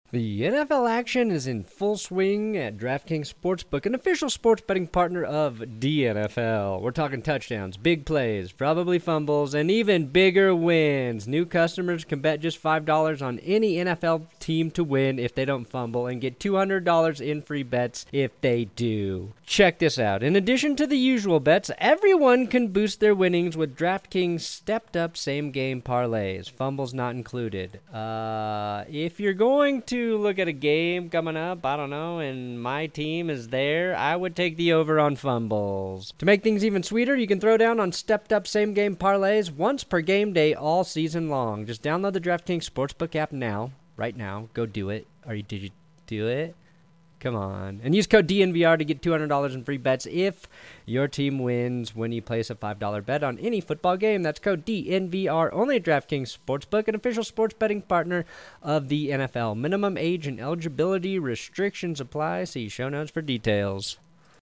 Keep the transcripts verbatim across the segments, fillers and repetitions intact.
The N F L action is in full swing at DraftKings Sportsbook, an official sports betting partner of the N F L. We're talking touchdowns, big plays, probably fumbles, and even bigger wins. New customers can bet just five dollars on any N F L team to win if they don't fumble and get two hundred dollars in free bets if they do. Check this out. In addition to the usual bets, everyone can boost their winnings with DraftKings stepped-up same-game parlays, fumbles not included. Uh, if you're going to look at a game coming up, I don't know, and my team is there, I would take the over on fumbles. To make things even sweeter, you can throw down on stepped-up same-game parlays once per game day all season long. Just download the DraftKings Sportsbook app now, right now. Go do it. Or did you do it? Come on. And use code D N V R to get two hundred dollars in free bets if your team wins when you place a five dollar bet on any football game. That's code D N V R only at DraftKings Sportsbook, an official sports betting partner of the N F L. Minimum age and eligibility restrictions apply. See show notes for details.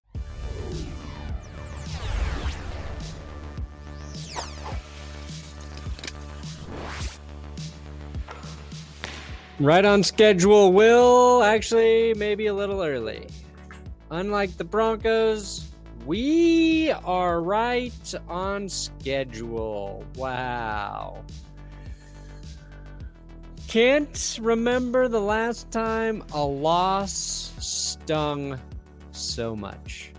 Right on schedule, Will. Actually, maybe a little early. Unlike the Broncos, we are right on schedule. Wow. Can't remember the last time a loss stung so much.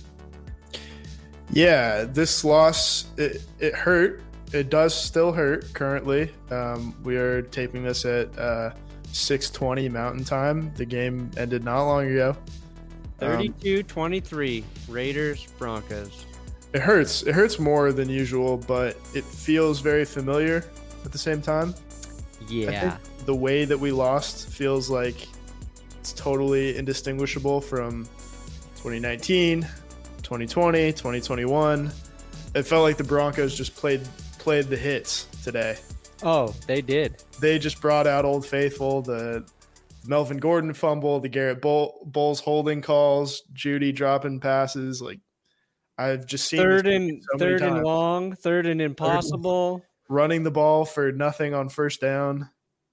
Yeah, this loss, it, it hurt. It does still hurt currently. Um, we are taping this at uh, six twenty Mountain Time. The game ended not long ago. thirty-two twenty-three, um, Raiders, Broncos. It hurts. It hurts more than usual, but it feels very familiar at the same time. Yeah. I think the way that we lost feels like it's totally indistinguishable from twenty nineteen, twenty twenty, twenty twenty-one. It felt like the Broncos just played played the hits today. Oh, they did. They just brought out Old Faithful, the Melvin Gordon fumble, the Garrett Bull, Bowles holding calls, Judy dropping passes. Like I've just seen third and so third and long, third and impossible, running the ball for nothing on first down,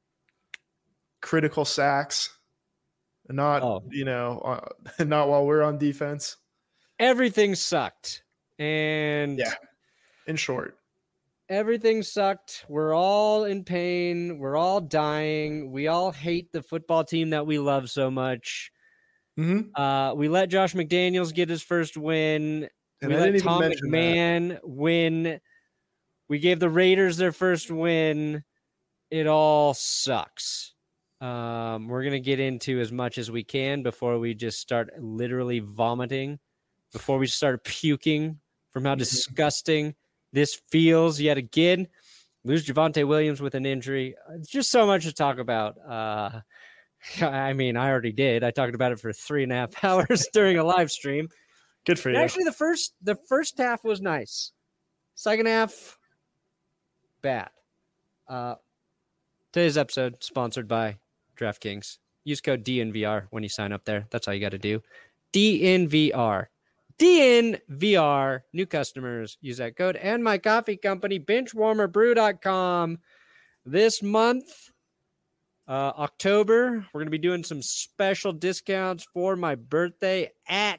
critical sacks, not oh. you know, uh, not while we're on defense. Everything sucked, and yeah, in short. Everything sucked. We're all in pain. We're all dying. We all hate the football team that we love so much. Mm-hmm. Uh, we let Josh McDaniels get his first win. And we I let Tom McMahon that. win. We gave the Raiders their first win. It all sucks. Um, we're going to get into as much as we can before we just start literally vomiting, before we start puking from how disgusting this feels yet again. Lose Javonte Williams with an injury. It's just so much to talk about. Uh, I mean, I already did. I talked about it for three and a half hours during a live stream. Good for you. And actually, the first the first half was nice. Second half, bad. Uh, today's episode sponsored by DraftKings. Use code D N V R when you sign up there. That's all you got to do. D N V R. D N V R, new customers, use that code. And my coffee company, bench warmer brew dot com. This month, uh, October, we're going to be doing some special discounts for my birthday at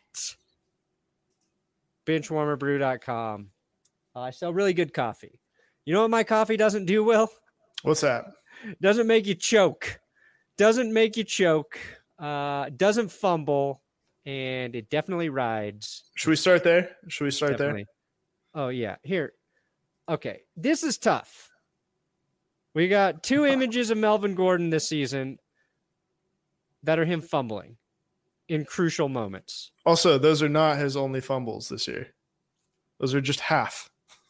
bench warmer brew dot com. Uh, I sell really good coffee. You know what my coffee doesn't do, Will? What's that? Doesn't make you choke. Doesn't make you choke. Uh, doesn't fumble. And it definitely rides. Should we start there? Should we start definitely. there? Oh, yeah. Here. Okay. This is tough. We got two images of Melvin Gordon this season that are him fumbling in crucial moments. Also, those are not his only fumbles this year. Those are just half.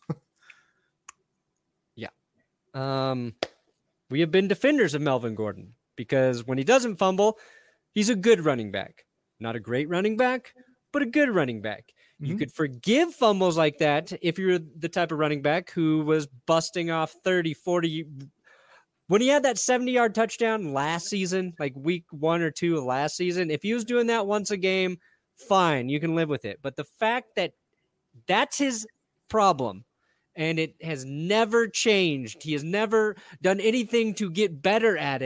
yeah. Um, we have been defenders of Melvin Gordon because when he doesn't fumble, he's a good running back. Not a great running back, but a good running back. Mm-hmm. You could forgive fumbles like that if you're the type of running back who was busting off thirty, forty. When he had that seventy-yard touchdown last season, like week one or two of last season, if he was doing that once a game, fine, you can live with it. But the fact that that's his problem and it has never changed, he has never done anything to get better at it,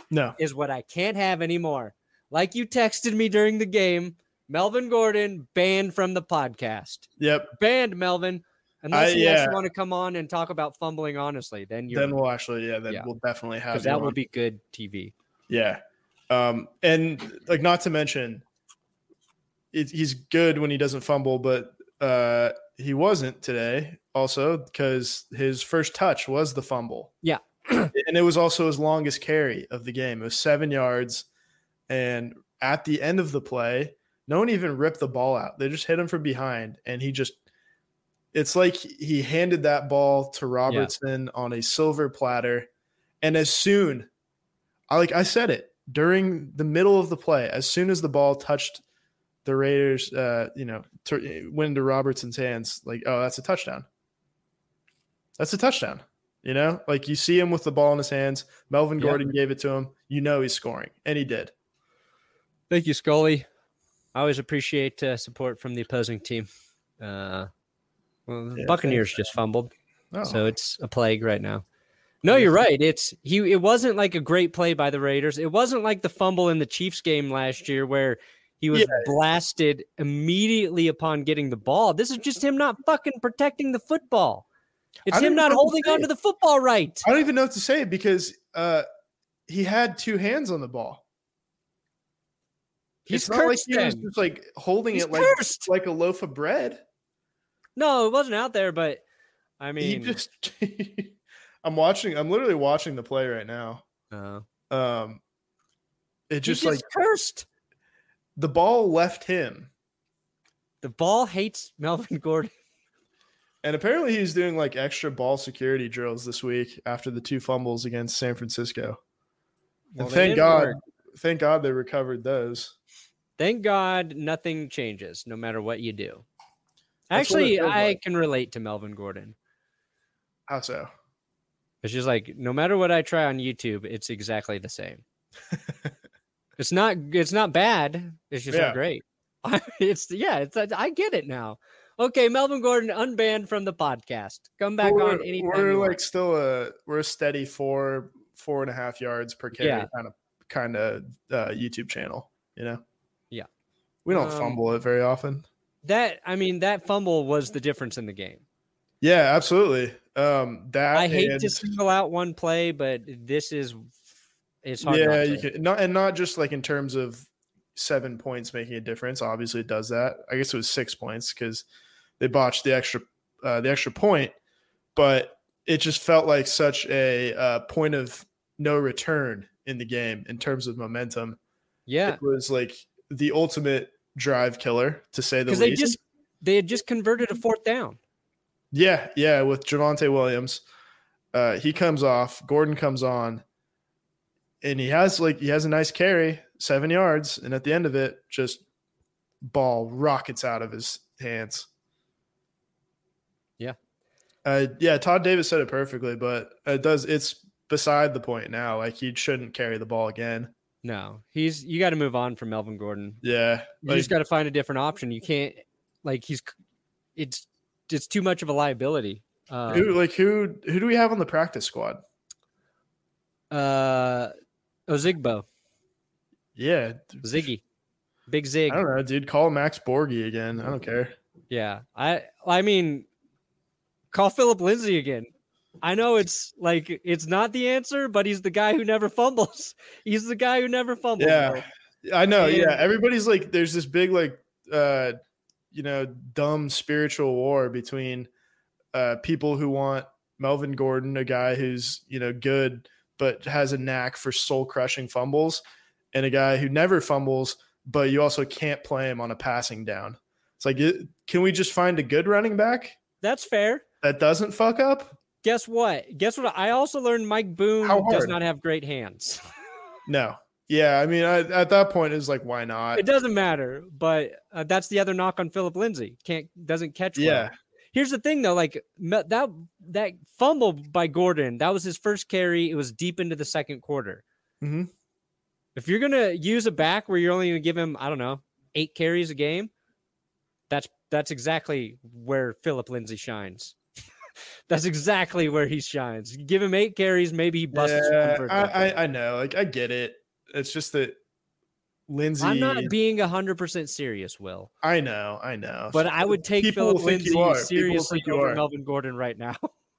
No. is what I can't have anymore. Like you texted me during the game, Melvin Gordon banned from the podcast. Yep. Banned, Melvin. Unless I- you yeah. actually want to come on and talk about fumbling honestly, then you're Then we'll actually, yeah, then Yeah. we'll definitely have because you that on. will be good T V. Yeah. Um, and like, not to mention, it, he's good when he doesn't fumble, but uh, he wasn't today also because his first touch was the fumble. Yeah. And it was also his longest carry of the game. It was seven yards. And at the end of the play, no one even ripped the ball out. They just hit him from behind. And he just, it's like he handed that ball to Robertson yeah. on a silver platter. And as soon, I like I said it, during the middle of the play, as soon as the ball touched the Raiders, uh, you know, t- went into Robertson's hands, like, oh, that's a touchdown. That's a touchdown. You know, like you see him with the ball in his hands. Melvin Yeah. Gordon gave it to him. You know he's scoring, and he did. Thank you, Scully. I always appreciate uh, support from the opposing team. Uh, well, the Yeah, Buccaneers thanks, just fumbled, Oh. so it's a plague right now. No, you're right. It's he. It wasn't like a great play by the Raiders. It wasn't like the fumble in the Chiefs game last year where he was Yeah. blasted immediately upon getting the ball. This is just him not fucking protecting the football. It's I don't him not know what to holding say. onto the football right. I don't even know what to say because uh, he had two hands on the ball. He's it's not like cursed he was then. just like holding He's it like, cursed. like a loaf of bread. No, it wasn't out there, but I mean, he just I'm watching I'm literally watching the play right now. uh, Um it he's just just like cursed. the ball left him. The ball hates Melvin Gordon. And apparently he's doing like extra ball security drills this week after the two fumbles against San Francisco. Well, and they thank didn't God work. thank God they recovered those. Thank God nothing changes no matter what you do. That's what it Actually, feels I like. can relate to Melvin Gordon. How so? It's just like no matter what I try on YouTube, it's exactly the same. It's not it's not bad. It's just Yeah. not great. It's yeah, it's I get it now. Okay, Melvin Gordon unbanned from the podcast. Come back we're, on anytime. We're you like want. still a we're a steady four four and a half yards per carry Yeah. kind of kind of uh, YouTube channel. You know. Yeah. We don't Um, fumble it very often. That I mean, that fumble was the difference in the game. Yeah, absolutely. Um, that I hate and, to single out one play, but this is it's hard. yeah, not you to. can not and not just like in terms of seven points making a difference. Obviously, it does that. I guess it was six points because they botched the extra uh, the extra point, but it just felt like such a uh, point of no return in the game in terms of momentum. Yeah, It was like the ultimate drive killer, to say the because least. they just they had just converted a fourth down. Yeah, yeah, with Javonte Williams. Uh, he comes off, Gordon comes on, and he has like he has a nice carry, seven yards, and at the end of it, just ball rockets out of his hands. Yeah. Uh, yeah, Todd Davis said it perfectly, but it does it's beside the point now. Like he shouldn't carry the ball again. No, he's you got to move on from Melvin Gordon. Yeah. You Like, just got to find a different option. You can't like he's it's it's too much of a liability. Um, who like who who do we have on the practice squad? uh, Ozigbo, Yeah. Ziggy, Big Zig. I don't know, dude. Call Max Borgi again. I don't care. Yeah, I I mean, call Philip Lindsay again. I know it's like it's not the answer, but he's the guy who never fumbles. He's the guy who never fumbles. Yeah. bro. I know. And- yeah. Everybody's like, there's this big, like, uh, you know, dumb spiritual war between uh, people who want Melvin Gordon, a guy who's, you know, good, but has a knack for soul crushing fumbles, and a guy who never fumbles, but you also can't play him on a passing down. It's like, it, can we just find a good running back That's fair. that doesn't fuck up? Guess what? Guess what? I also learned Mike Boone How does hard? not have great hands. No. Yeah. I mean, I, at that point, it's like, why not? It doesn't matter, but uh, that's the other knock on Philip Lindsay. Can't doesn't catch. well. Yeah. Here's the thing, though. Like me- that that fumble by Gordon, that was his first carry. It was deep into the second quarter. hmm If you're gonna use a back where you're only gonna give him, I don't know, eight carries a game, that's that's exactly where Philip Lindsay shines. That's exactly where he shines. Give him eight carries, maybe he busts Yeah, one for a I, touchdown. I I know. Like I get it. It's just that Lindsey. I'm not being one hundred percent serious, Will. I know, I know. But I would take People Philip will think you Lindsay are. People will seriously think you over are. Melvin Gordon right now.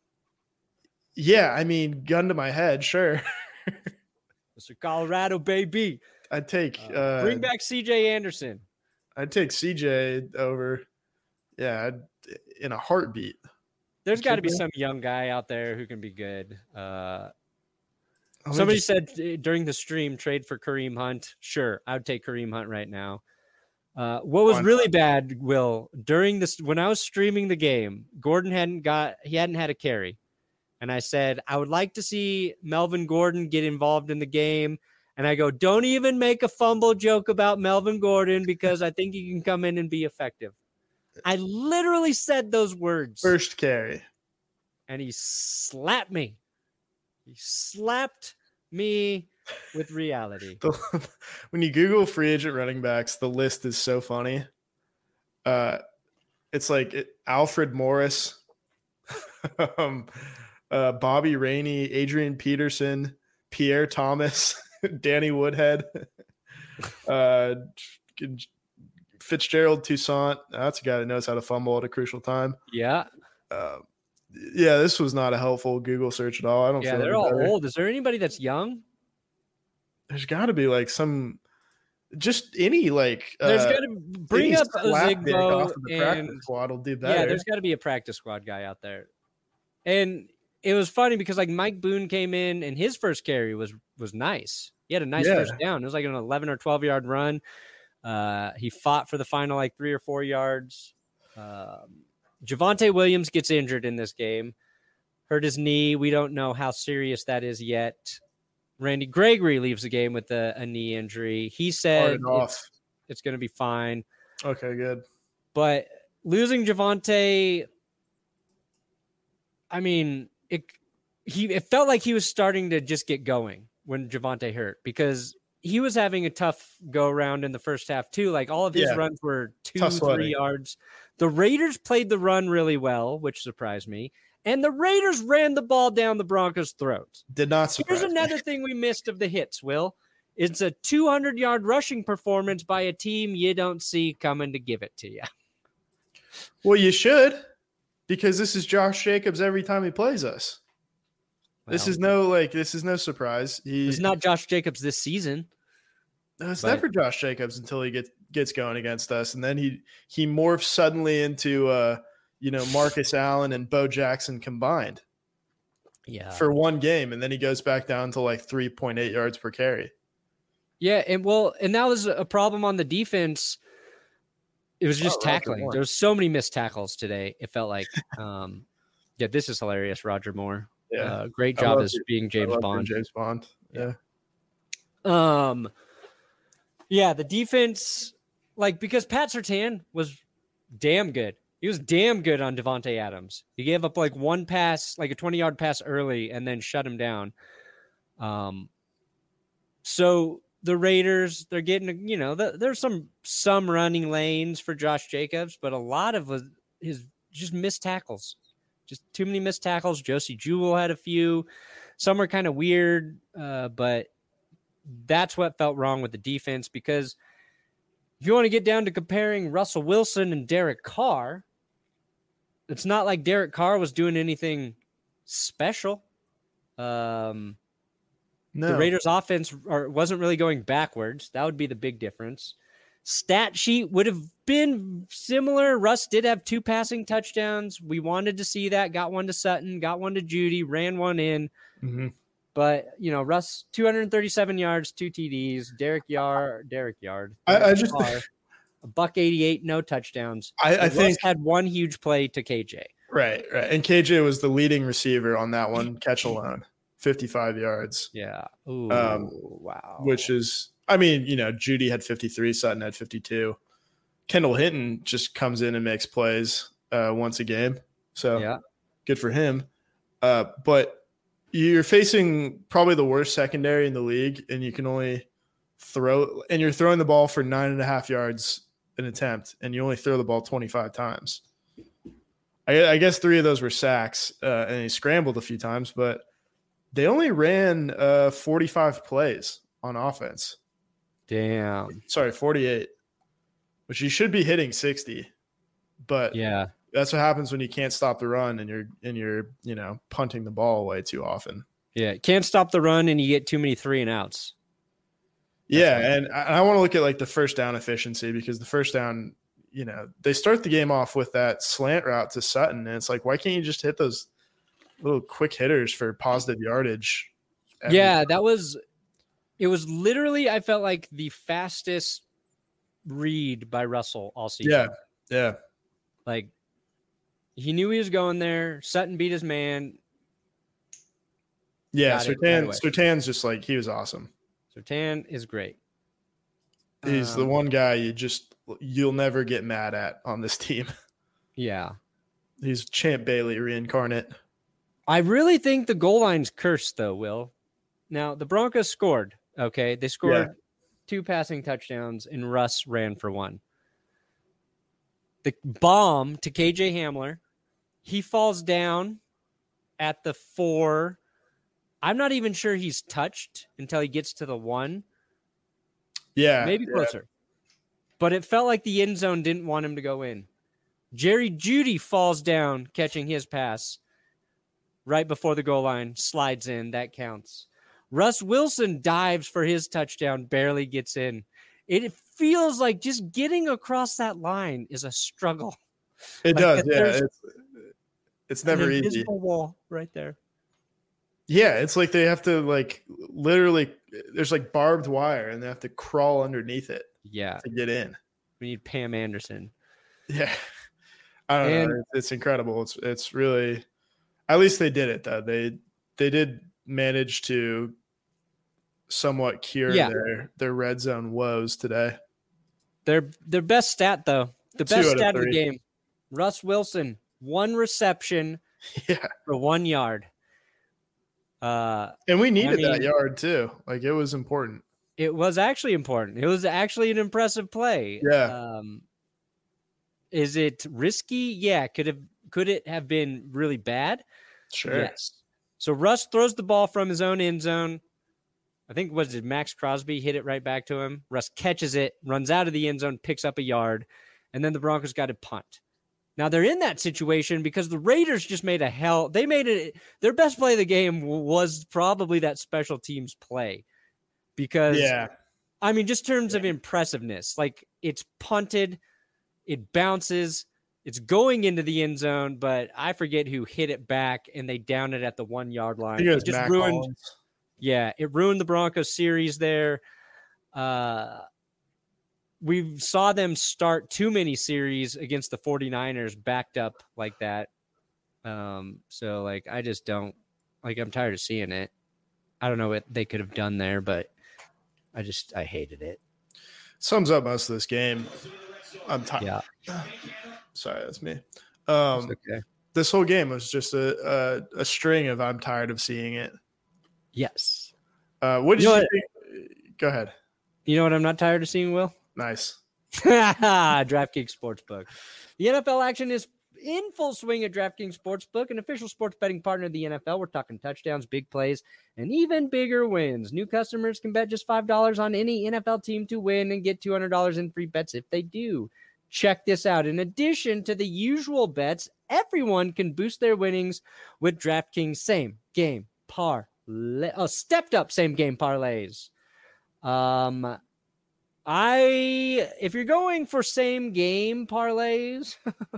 Yeah, I mean, gun to my head, sure. Mister Colorado, baby. I'd take Uh, uh, bring back C J Anderson. I'd take C J over. Yeah, I'd, in a heartbeat. There's got to be Should we? some young guy out there who can be good. Uh, Let me somebody just- said uh, during the stream, trade for Kareem Hunt. Sure, I would take Kareem Hunt right now. Uh, what was Why really bad, Will, during this when I was streaming the game, Gordon hadn't got he hadn't had a carry, and I said I would like to see Melvin Gordon get involved in the game. And I go, don't even make a fumble joke about Melvin Gordon because I think he can come in and be effective. I literally said those words. First carry. And he slapped me. He slapped me with reality. The, when you Google free agent running backs, the list is so funny. Uh, it's like it, Alfred Morris, um, uh, Bobby Rainey, Adrian Peterson, Pierre Thomas, Danny Woodhead, uh, Fitzgerald Toussaint. That's a guy that knows how to fumble at a crucial time. Yeah. Uh, yeah, this was not a helpful Google search at all. I don't Yeah, feel they're any all better. old. Is there anybody that's young? There's got to be like some, just any like. There's uh, got to bring any up slapdick Ozigbo off of the and practice squad will do better. yeah, there's got to be a practice squad guy out there. And it was funny because like Mike Boone came in and his first carry was was nice. He had a nice Yeah. first down. It was like an eleven or twelve yard run. Uh, he fought for the final like three or four yards. Um, Javonte Williams gets injured in this game, hurt his knee. We don't know how serious that is yet. Randy Gregory leaves the game with a, a knee injury. He said Started off. it's, it's going to be fine. Okay, good. But losing Javonte, I mean, it he it felt like he was starting to just get going when Javonte hurt because he was having a tough go around in the first half too. Like all of his Yeah. runs were two, Tough sledding. three yards. The Raiders played the run really well, which surprised me. And the Raiders ran the ball down the Broncos' throats. Did not surprise Here's me. another thing we missed of the hits, Will. It's a two hundred yard rushing performance by a team you don't see coming to give it to you. Well, you should, because this is Josh Jacobs every time he plays us. This Well, is no like this is no surprise. He, it's not Josh Jacobs this season. No, it's but- never Josh Jacobs until he gets gets going against us, and then he he morphs suddenly into uh you know Marcus Allen and Bo Jackson combined Yeah. for one game, and then he goes back down to like three point eight yards per carry. Yeah, and well, and that was a problem on the defense. It was just Oh, Roger tackling. Moore. There was so many missed tackles today. It felt like, um, yeah, this is hilarious. Roger Moore, Yeah, uh, great I job love as it. being I James love Bond. James Bond. Yeah. Um, yeah, the defense, like because Pat Surtain was damn good. He was damn good on Devontae Adams. He gave up like one pass, like a twenty yard pass early, and then shut him down. Um, so the Raiders, they're getting, you know, the, there's some some running lanes for Josh Jacobs, but a lot of his, his just missed tackles, just too many missed tackles. Josie Jewell had a few. Some are kind of weird, uh, but that's what felt wrong with the defense because if you want to get down to comparing Russell Wilson and Derek Carr, it's not like Derek Carr was doing anything special. Um, No. The Raiders' offense or, wasn't really going backwards. That would be the big difference. Stat sheet would have been similar. Russ did have two passing touchdowns. We wanted to see that. Got one to Sutton, got one to Judy, ran one in. Mhm. But, you know, Russ, two hundred thirty-seven yards, two T Ds. Derek Yard, Derek Yard. I, I just Carr, a buck eighty-eight, no touchdowns. I, I Russ think had one huge play to K J. right, right. And K J was the leading receiver on that one catch alone, fifty-five yards. Yeah. Ooh, Um, wow. Which is, I mean, you know, Judy had fifty-three, Sutton had fifty-two. Kendall Hinton just comes in and makes plays uh, once a game. So yeah. good for him. Uh, but you're facing probably the worst secondary in the league, and you can only throw, and you're throwing the ball for nine and a half yards an attempt, and you only throw the ball twenty-five times. I, I guess three of those were sacks, uh, and he scrambled a few times, but they only ran uh, forty-five plays on offense. Damn. Sorry, forty-eight, which you should be hitting sixty. But yeah, that's what happens when you can't stop the run and you're and you're you know punting the ball away too often. Yeah, can't stop the run and you get too many three and outs. That's yeah, right. and I, I want to look at like the first down efficiency, because the first down, you know, they start the game off with that slant route to Sutton, and it's like, why can't you just hit those little quick hitters for positive yardage? Yeah, time? that was it was literally, I felt like the fastest read by Russell all season. Yeah, yeah. Like, he knew he was going there. Sutton beat his man. Yeah, Surtain, right Surtain's just like, he was awesome. Surtain is great. He's um, the one guy you just, you'll never get mad at on this team. Yeah. He's Champ Bailey reincarnate. I really think the goal line's cursed, though, Will. Now, the Broncos scored, okay? They scored yeah. two passing touchdowns, and Russ ran for one. The bomb to K J Hamler, he falls down at the four. I'm not even sure he's touched until he gets to the one. Yeah. Maybe yeah. closer. But it felt like the end zone didn't want him to go in. Jerry Jeudy falls down, catching his pass right before the goal line, slides in. That counts. Russ Wilson dives for his touchdown, barely gets in. It feels like just getting across that line is a struggle. It like does, yeah. It's, it's never an easy. Invisible wall right there. Yeah, it's like they have to like literally. There's like barbed wire, and they have to crawl underneath it. Yeah, to get in. We need Pam Anderson. Yeah, I don't and, know. It's, it's incredible. It's it's really. At least they did it though. They they did manage to somewhat cure yeah. their their red zone woes today. Their their best stat though, the best stat of, of the game. Russ Wilson, one reception yeah. for one yard. Uh, and we needed I mean, that yard too. Like, it was important. It was actually important. It was actually an impressive play. Yeah. Um, is it risky? Yeah. Could have could it have been really bad? Sure. Yes. So Russ throws the ball from his own end zone. I think, was it Max Crosby hit it right back to him? Russ catches it, runs out of the end zone, picks up a yard, and then the Broncos got to punt. Now they're in that situation because the Raiders just made a hell. They made it. Their best play of the game was probably that special teams play, because yeah, I mean, just in terms yeah. of impressiveness, like, it's punted, it bounces, it's going into the end zone, but I forget who hit it back, and they down it at the one yard line. It, it just Mac ruined. Hollins. Yeah, it ruined the Broncos series there. Uh, we saw them start too many series against the 49ers backed up like that. Um, so, like, I just don't – like, I'm tired of seeing it. I don't know what they could have done there, but I just – I hated it. Sums up most of this game. I'm tired. Yeah. Sorry, that's me. Um, that's okay. This whole game was just a, a, a string of I'm tired of seeing it. Yes. Uh, what did you, you know think? Go ahead. You know what I'm not tired of seeing, Will? Nice. DraftKings Sportsbook. The N F L action is in full swing at DraftKings Sportsbook, an official sports betting partner of the N F L. We're talking touchdowns, big plays, and even bigger wins. New customers can bet just five dollars on any N F L team to win and get two hundred dollars in free bets if they do. Check this out. In addition to the usual bets, everyone can boost their winnings with DraftKings same game parlay. Oh, stepped up same game parlays. Um, I if you're going for same game parlays,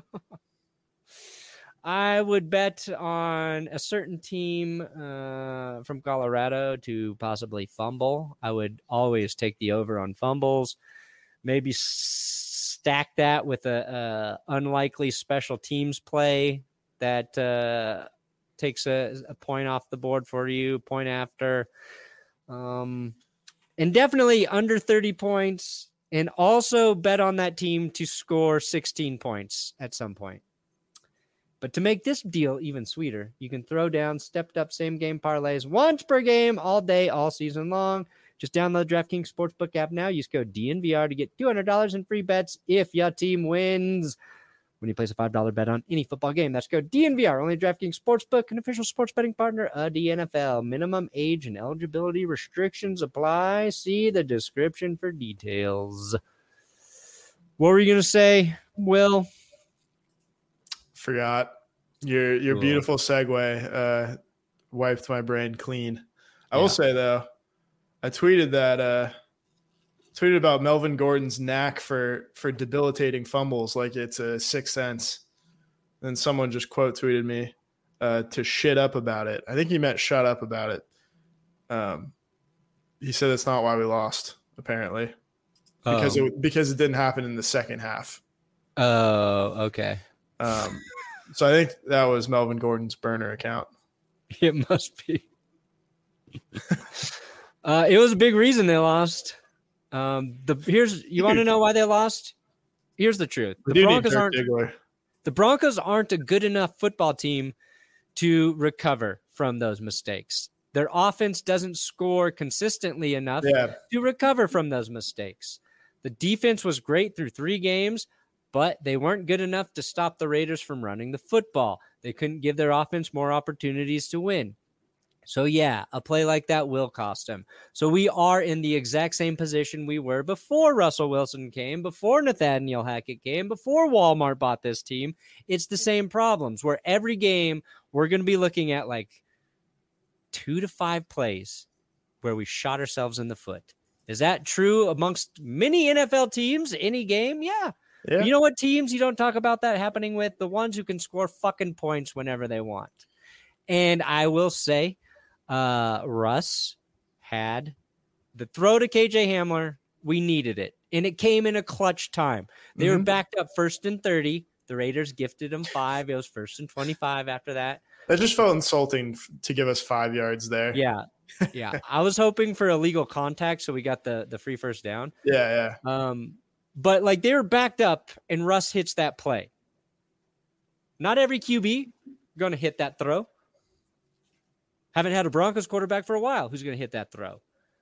I would bet on a certain team uh, from Colorado to possibly fumble. I would always take the over on fumbles. Maybe stack that with a, a unlikely special teams play that uh, takes a, a point off the board for you, point after. Um, and definitely under thirty points, and also bet on that team to score sixteen points at some point. But to make this deal even sweeter, you can throw down stepped up same game parlays once per game, all day, all season long. Just download DraftKings Sportsbook app now. Use code D N V R to get two hundred dollars in free bets if your team wins. when you place a five dollar bet on any football game. That's code D N V R, only DraftKings Sportsbook, an official sports betting partner of the N F L. Minimum age and eligibility restrictions apply. See the description for details. What were you going to say, Will? Forgot. Your your cool. Beautiful segue uh, wiped my brain clean. I yeah. will say, though, I tweeted that uh, tweeted about Melvin Gordon's knack for for debilitating fumbles like it's a sixth sense. Then someone just quote tweeted me uh, to shit up about it. I think he meant shut up about it. Um, he said that's not why we lost, apparently, because oh. it because it didn't happen in the second half. Oh, okay. Um, so I think that was Melvin Gordon's burner account. It must be. uh, it was a big reason they lost. Um, the here's you want to know why they lost? Here's the truth: the Broncos aren't the Broncos aren't a good enough football team to recover from those mistakes. Their offense doesn't score consistently enough yeah. to recover from those mistakes. The defense was great through three games, but they weren't good enough to stop the Raiders from running the football. They couldn't give their offense more opportunities to win. So, yeah, a play like that will cost them. So we are in the exact same position we were before Russell Wilson came, before Nathaniel Hackett came, before Walmart bought this team. It's the same problems where every game we're going to be looking at like two to five plays where we shot ourselves in the foot. Is that true amongst many N F L teams? Any game? Yeah. Yeah. You know what teams you don't talk about that happening with? The ones who can score fucking points whenever they want. And I will say, uh, Russ had the throw to K J Hamler. We needed it. And it came in a clutch time. They mm-hmm. were backed up first and thirty. The Raiders gifted them five. It was first and twenty-five after that. That just felt insulting to give us five yards there. Yeah. Yeah. I was hoping for illegal contact, so we got the, the free first down. Yeah, yeah. Um, But, like, they were backed up, and Russ hits that play. Not every Q B going to hit that throw. Haven't had a Broncos quarterback for a while who's going to hit that throw.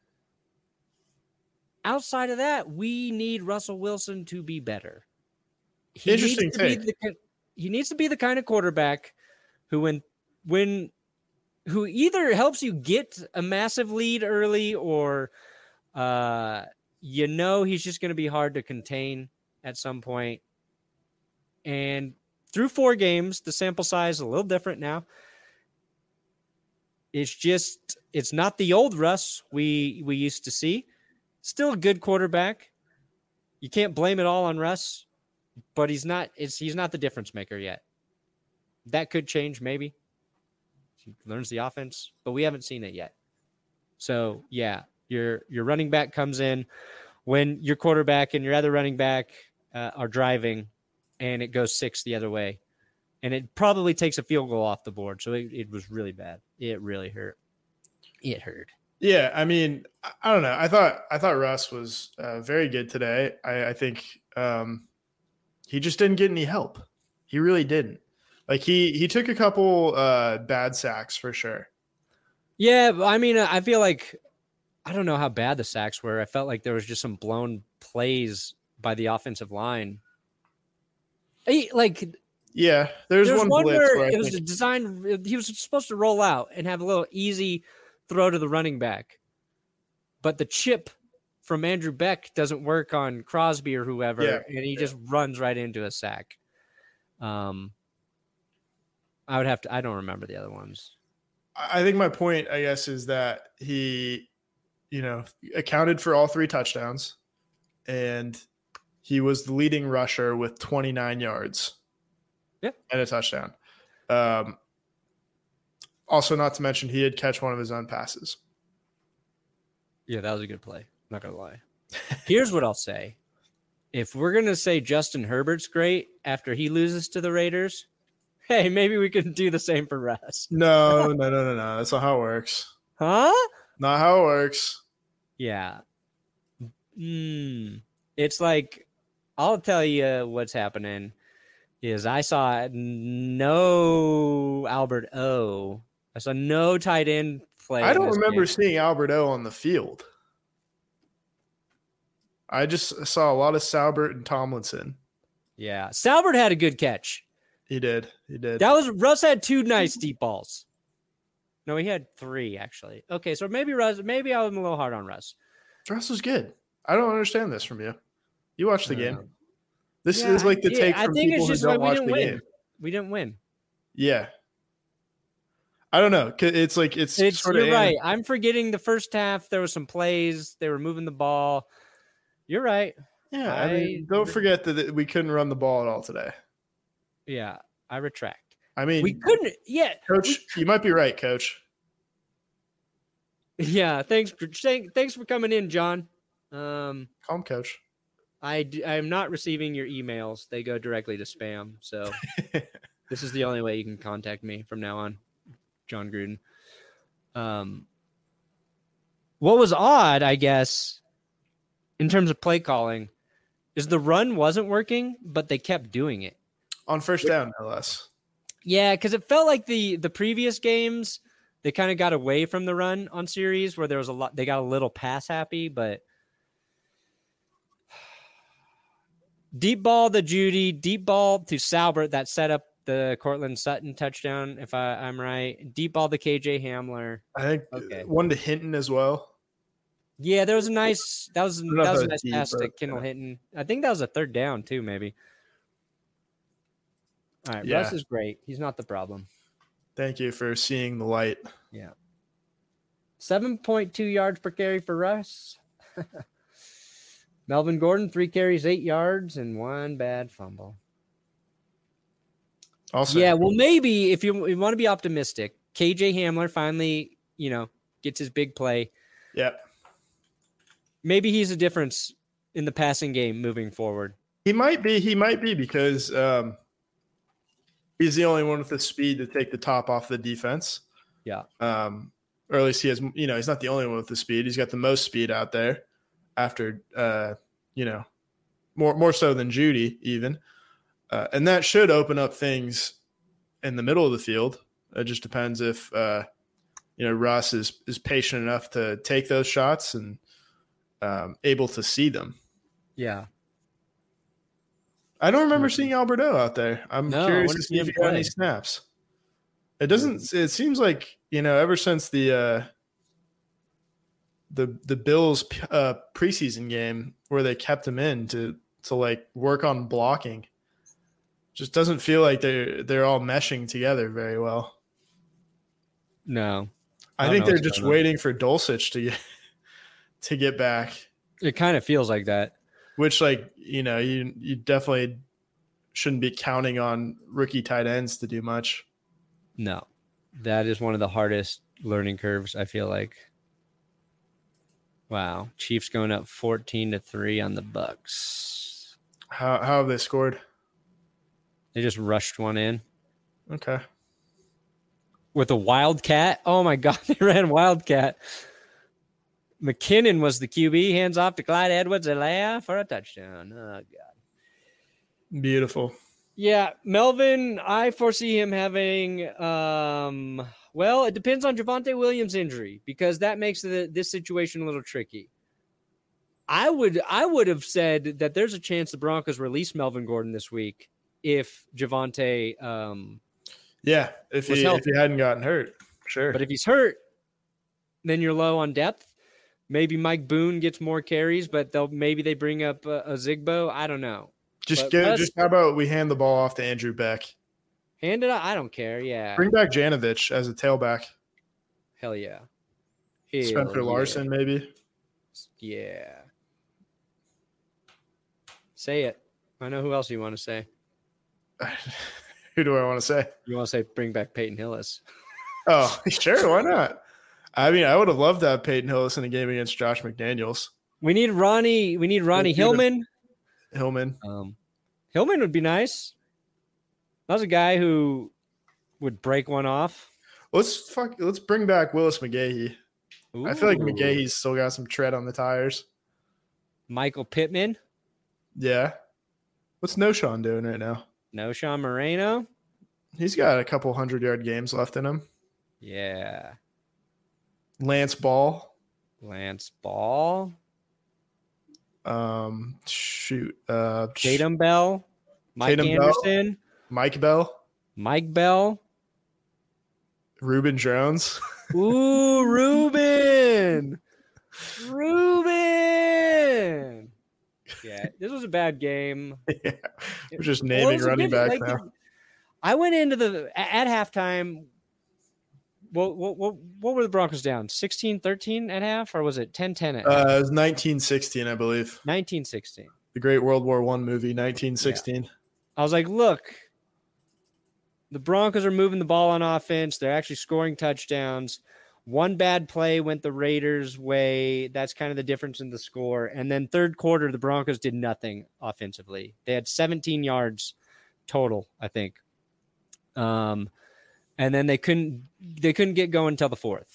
Outside of that, we need Russell Wilson to be better. He Interesting needs to take. Be the, he needs to be the kind of quarterback who, when, when, who either helps you get a massive lead early or uh, – you know he's just going to be hard to contain at some point. And through four games, the sample size is a little different now. It's just, it's not the old Russ we we used to see. Still a good quarterback. You can't blame it all on Russ, but he's not it's he's not the difference maker yet. That could change maybe. He learns the offense, but we haven't seen it yet. So, yeah. Your your running back comes in when your quarterback and your other running back uh, are driving, and it goes six the other way. And it probably takes a field goal off the board. So it, it was really bad. It really hurt. It hurt. Yeah, I mean, I don't know. I thought I thought Russ was uh, very good today. I, I think um, he just didn't get any help. He really didn't. Like he he took a couple uh, bad sacks for sure. Yeah, I mean, I feel like I don't know how bad the sacks were. I felt like there was just some blown plays by the offensive line. He, like, yeah, there's, there's one, one blitz where, where it think... was a design. He was supposed to roll out and have a little easy throw to the running back, but the chip from Andrew Beck doesn't work on Crosby or whoever, yeah, and he yeah. just runs right into a sack. Um, I would have to. I don't remember the other ones. I think my point, I guess, is that he. You know, accounted for all three touchdowns, and he was the leading rusher with twenty-nine yards yeah. and a touchdown. Um, also, not to mention, he did catch one of his own passes. Yeah, that was a good play. Not going to lie. Here's what I'll say. If we're going to say Justin Herbert's great after he loses to the Raiders, hey, maybe we can do the same for Russ. No, no, no, no, no. That's not how it works. Huh? Not how it works. Yeah. Mm. It's like, I'll tell you what's happening is I saw no Albert O. I saw no tight end play. I don't remember game. seeing Albert O on the field. I just saw a lot of Saubert and Tomlinson. Yeah. Salbert had a good catch. He did. He did. That was Russ had two nice deep balls. No, he had three actually. Okay, so maybe Russ. Maybe I was a little hard on Russ. Russ was good. I don't understand this from you. You watched the game. Um, This yeah, is like the yeah, take I from think people it's just who don't like we watch didn't the win. game. We didn't win. Yeah. I don't know. It's like it's, It's sort you're of right. I'm forgetting the first half. There were some plays. They were moving the ball. You're right. Yeah, I, I- mean, don't forget that it- we couldn't run the ball at all today. Yeah, I retract. I mean, We couldn't. Yeah, Coach, you might be right, Coach. yeah. Thanks. For, thank- thanks for coming in, John. Um, Calm, Coach. I d- I am not receiving your emails. They go directly to spam. So this is the only way you can contact me from now on, John Gruden. Um, what was odd, I guess, in terms of play calling, is the run wasn't working, but they kept doing it. On first down, no less. Yeah, because it felt like the the previous games they kind of got away from the run on series where there was a lot. They got a little pass happy, but deep ball to Judy, deep ball to Salbert that set up the Cortland Sutton touchdown. If I, I'm right, deep ball to K J Hamler. I think Okay. one to Hinton as well. Yeah, there was a nice that was know if that was a that nice was deep, pass to but, Kendall yeah. Hinton. I think that was a third down too, maybe. All right, Yeah. Russ is great. He's not the problem. Thank you for seeing the light. Yeah. seven point two yards per carry for Russ. Melvin Gordon, three carries, eight yards, and one bad fumble. Also, Yeah, well, maybe if you, you want to be optimistic, K J Hamler finally, you know, gets his big play. yeah, Maybe he's a difference in the passing game moving forward. he might be. He might be because um, he's the only one with the speed to take the top off the defense. Yeah. Um, or at least he has. You know, he's not the only one with the speed. He's got the most speed out there. After, uh, you know, more more so than Judy even, uh, and that should open up things in the middle of the field. It just depends if uh, you know Russ is is patient enough to take those shots and um, able to see them. Yeah. I don't remember seeing Alberto out there. I'm No, I curious wanna to see see if him he got any play. snaps. It doesn't. It seems like you know ever since the uh, the the Bills uh, preseason game where they kept him in to to like work on blocking, just doesn't feel like they're they're all meshing together very well. No. I, I don't think know they're what's just going on. waiting for Dulcich to get to get back, It kind of feels like that. which like you know you you definitely shouldn't be counting on rookie tight ends to do much. No. That is one of the hardest learning curves, I feel like. Wow. Chiefs going up fourteen to three on the Bucks. How how have they scored? They just rushed one in Okay. with a wildcat. Oh my God, they ran wildcat. McKinnon was the Q B. Hands off to Clyde Edwards-Helaire for a touchdown. Oh God. Beautiful. Yeah, Melvin, I foresee him having um well, it depends on Javonte Williams' injury because that makes the, this situation a little tricky. I would I would have said that there's a chance the Broncos release Melvin Gordon this week if Javonte um Yeah, if Was he healthy. if he hadn't gotten hurt, sure. but if he's hurt, then you're low on depth. Maybe Mike Boone gets more carries, but they'll maybe they bring up a, a Zigbo. I don't know. just but get let's- just how about we hand the ball off to Andrew Beck? Hand it out. I don't care. Yeah. Bring back Janovich as a tailback. Hell yeah. Hell Spencer yeah. Larson, maybe. Yeah. Say it. I know who else you want to say. Who do I want to say? You want to say bring back Peyton Hillis. Oh, sure, why not? I mean, I would have loved to have Peyton Hillis in a game against Josh McDaniels. We need Ronnie. We need Ronnie Let's do the- Hillman. Hillman. Um, Hillman would be nice. That was a guy who would break one off. Let's fuck. Let's bring back Willis McGahee. I feel like Ooh. McGahee's still got some tread on the tires. Michael Pittman. Yeah. What's No Sean doing right now? No Sean Moreno. He's got a couple hundred yard games left in him. Yeah. Lance Ball. Lance Ball. Um, shoot. Uh, Tatum Bell. Mike Tatum Anderson, Bell, Mike Bell, Mike Bell. Ruben Jones. Ooh, Ruben. Ruben. Yeah, this was a bad game. Yeah. We're just Well, it naming was a running good- backs like, now. I went into the at halftime. What, what, what, what were the Broncos down? sixteen thirteen at half, or was it ten ten at half? Uh, it was nineteen sixteen, I believe. nineteen sixteen. The Great World War One movie, nineteen sixteen. I was like, look, the Broncos are moving the ball on offense. They're actually scoring touchdowns. One bad play went the Raiders' way. That's kind of the difference in the score. And then third quarter, the Broncos did nothing offensively. They had seventeen yards total, I think. Um, and then they couldn't they couldn't get going until the fourth.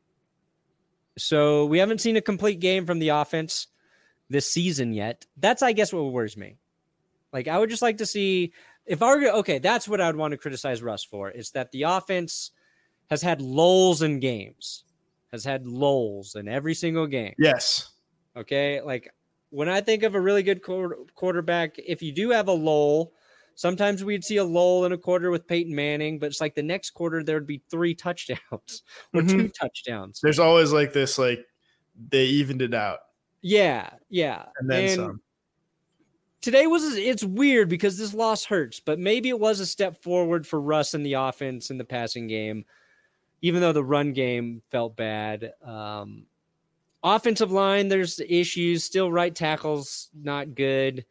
So we haven't seen a complete game from the offense this season yet. That's, I guess, what worries me. Like, I would just like to see if I were okay. That's what I would want to criticize Russ for, is that the offense has had lulls in games, has had lulls in every single game. Yes. Okay. Like, when I think of a really good quarter, quarterback, if you do have a lull, sometimes we'd see a lull in a quarter with Peyton Manning, but it's like the next quarter there would be three touchdowns or Mhm. two touchdowns. There's always like this, like they evened it out. Yeah. Yeah. And then and some. Today was, it's weird because this loss hurts, but maybe it was a step forward for Russ in the offense in the passing game, even though the run game felt bad. Um, offensive line, there's issues. Still, right tackle's not good.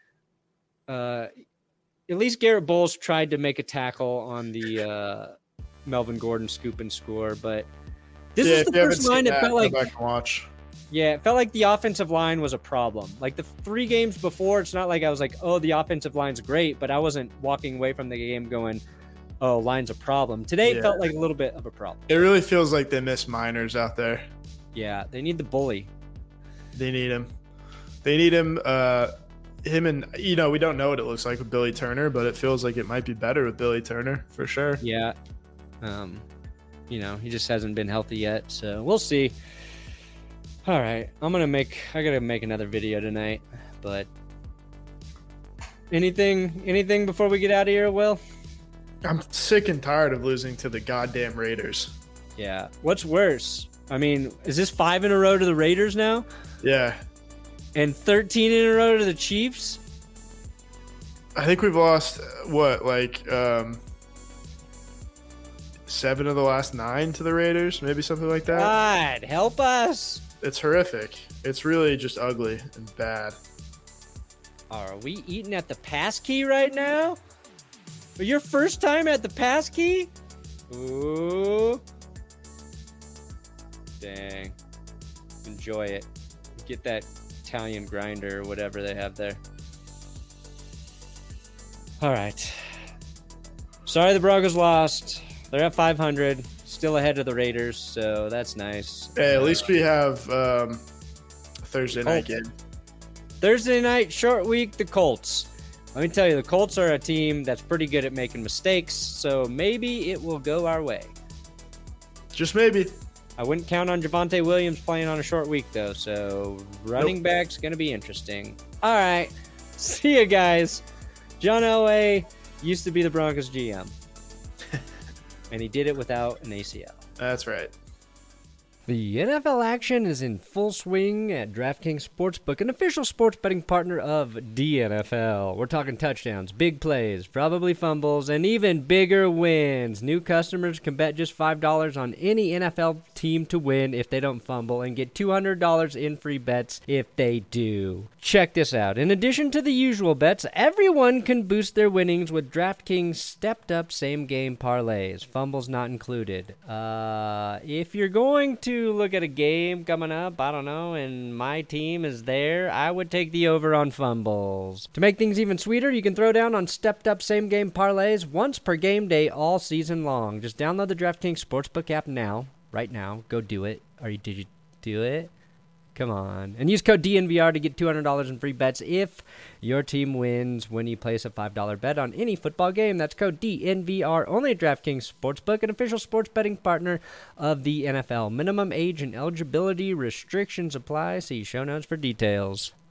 Uh, at least Garrett Bowles tried to make a tackle on the uh, Melvin Gordon scoop and score, but this Yeah, is if the you haven't first line seen that that, felt go like back and watch. yeah, it felt like the offensive line was a problem. Like the three games before, it's not like I was like, oh, the offensive line's great, but I wasn't walking away from the game going, oh, line's a problem. Today, it Yeah. felt like a little bit of a problem. It really feels like they miss Miners out there. Yeah, they need the bully. They need him. They need him. Uh, him and, you know, we don't know what it looks like with Billy Turner, but it feels like it might be better with Billy Turner for sure. Yeah. Um, you know, he just hasn't been healthy yet, so we'll see. All right, I'm gonna make. I gotta make another video tonight. But anything, anything before we get out of here, Will? I'm sick and tired of losing to the goddamn Raiders. Yeah. What's worse? I mean, is this five in a row to the Raiders now, Yeah. and thirteen in a row to the Chiefs? I think we've lost, uh, what, like um, seven of the last nine to the Raiders, maybe something like that. God, help us! It's horrific. It's really just ugly and bad. Are we eating at the pass key right now? For your first time at the pass key? Ooh. Dang. Enjoy it. Get that Italian grinder or whatever they have there. All right. Sorry the Broncos lost. They're at five hundred. Still ahead of the Raiders, so that's nice. Hey, at least we have um, a Thursday night Colts. game. Thursday night, short week, the Colts. Let me tell you, the Colts are a team that's pretty good at making mistakes, so maybe it will go our way. Just maybe. I wouldn't count on Javonte Williams playing on a short week, though, so running Nope. back's going to be interesting. All right. See you guys. John Elway used to be the Broncos G M, and he did it without an A C L. That's right. The N F L action is in full swing at DraftKings Sportsbook, an official sports betting partner of D N F L. We're talking touchdowns, big plays, probably fumbles, and even bigger wins. New customers can bet just five dollars on any N F L team to win if they don't fumble and get two hundred dollars in free bets if they do. Check this out. In addition to the usual bets, everyone can boost their winnings with DraftKings stepped-up same-game parlays, fumbles not included. Uh, if you're going to look at a game coming up, I don't know, and my team is there, I would take the over on fumbles. To make things even sweeter, you can throw down on stepped-up same-game parlays once per game day all season long. Just download the DraftKings Sportsbook app now, right now. Go do it. Or you, did you do it? Come on. And use code D N V R to get two hundred dollars in free bets if your team wins when you place a five dollar bet on any football game. That's code D N V R only at DraftKings Sportsbook, an official sports betting partner of the N F L. Minimum age and eligibility restrictions apply. See show notes for details.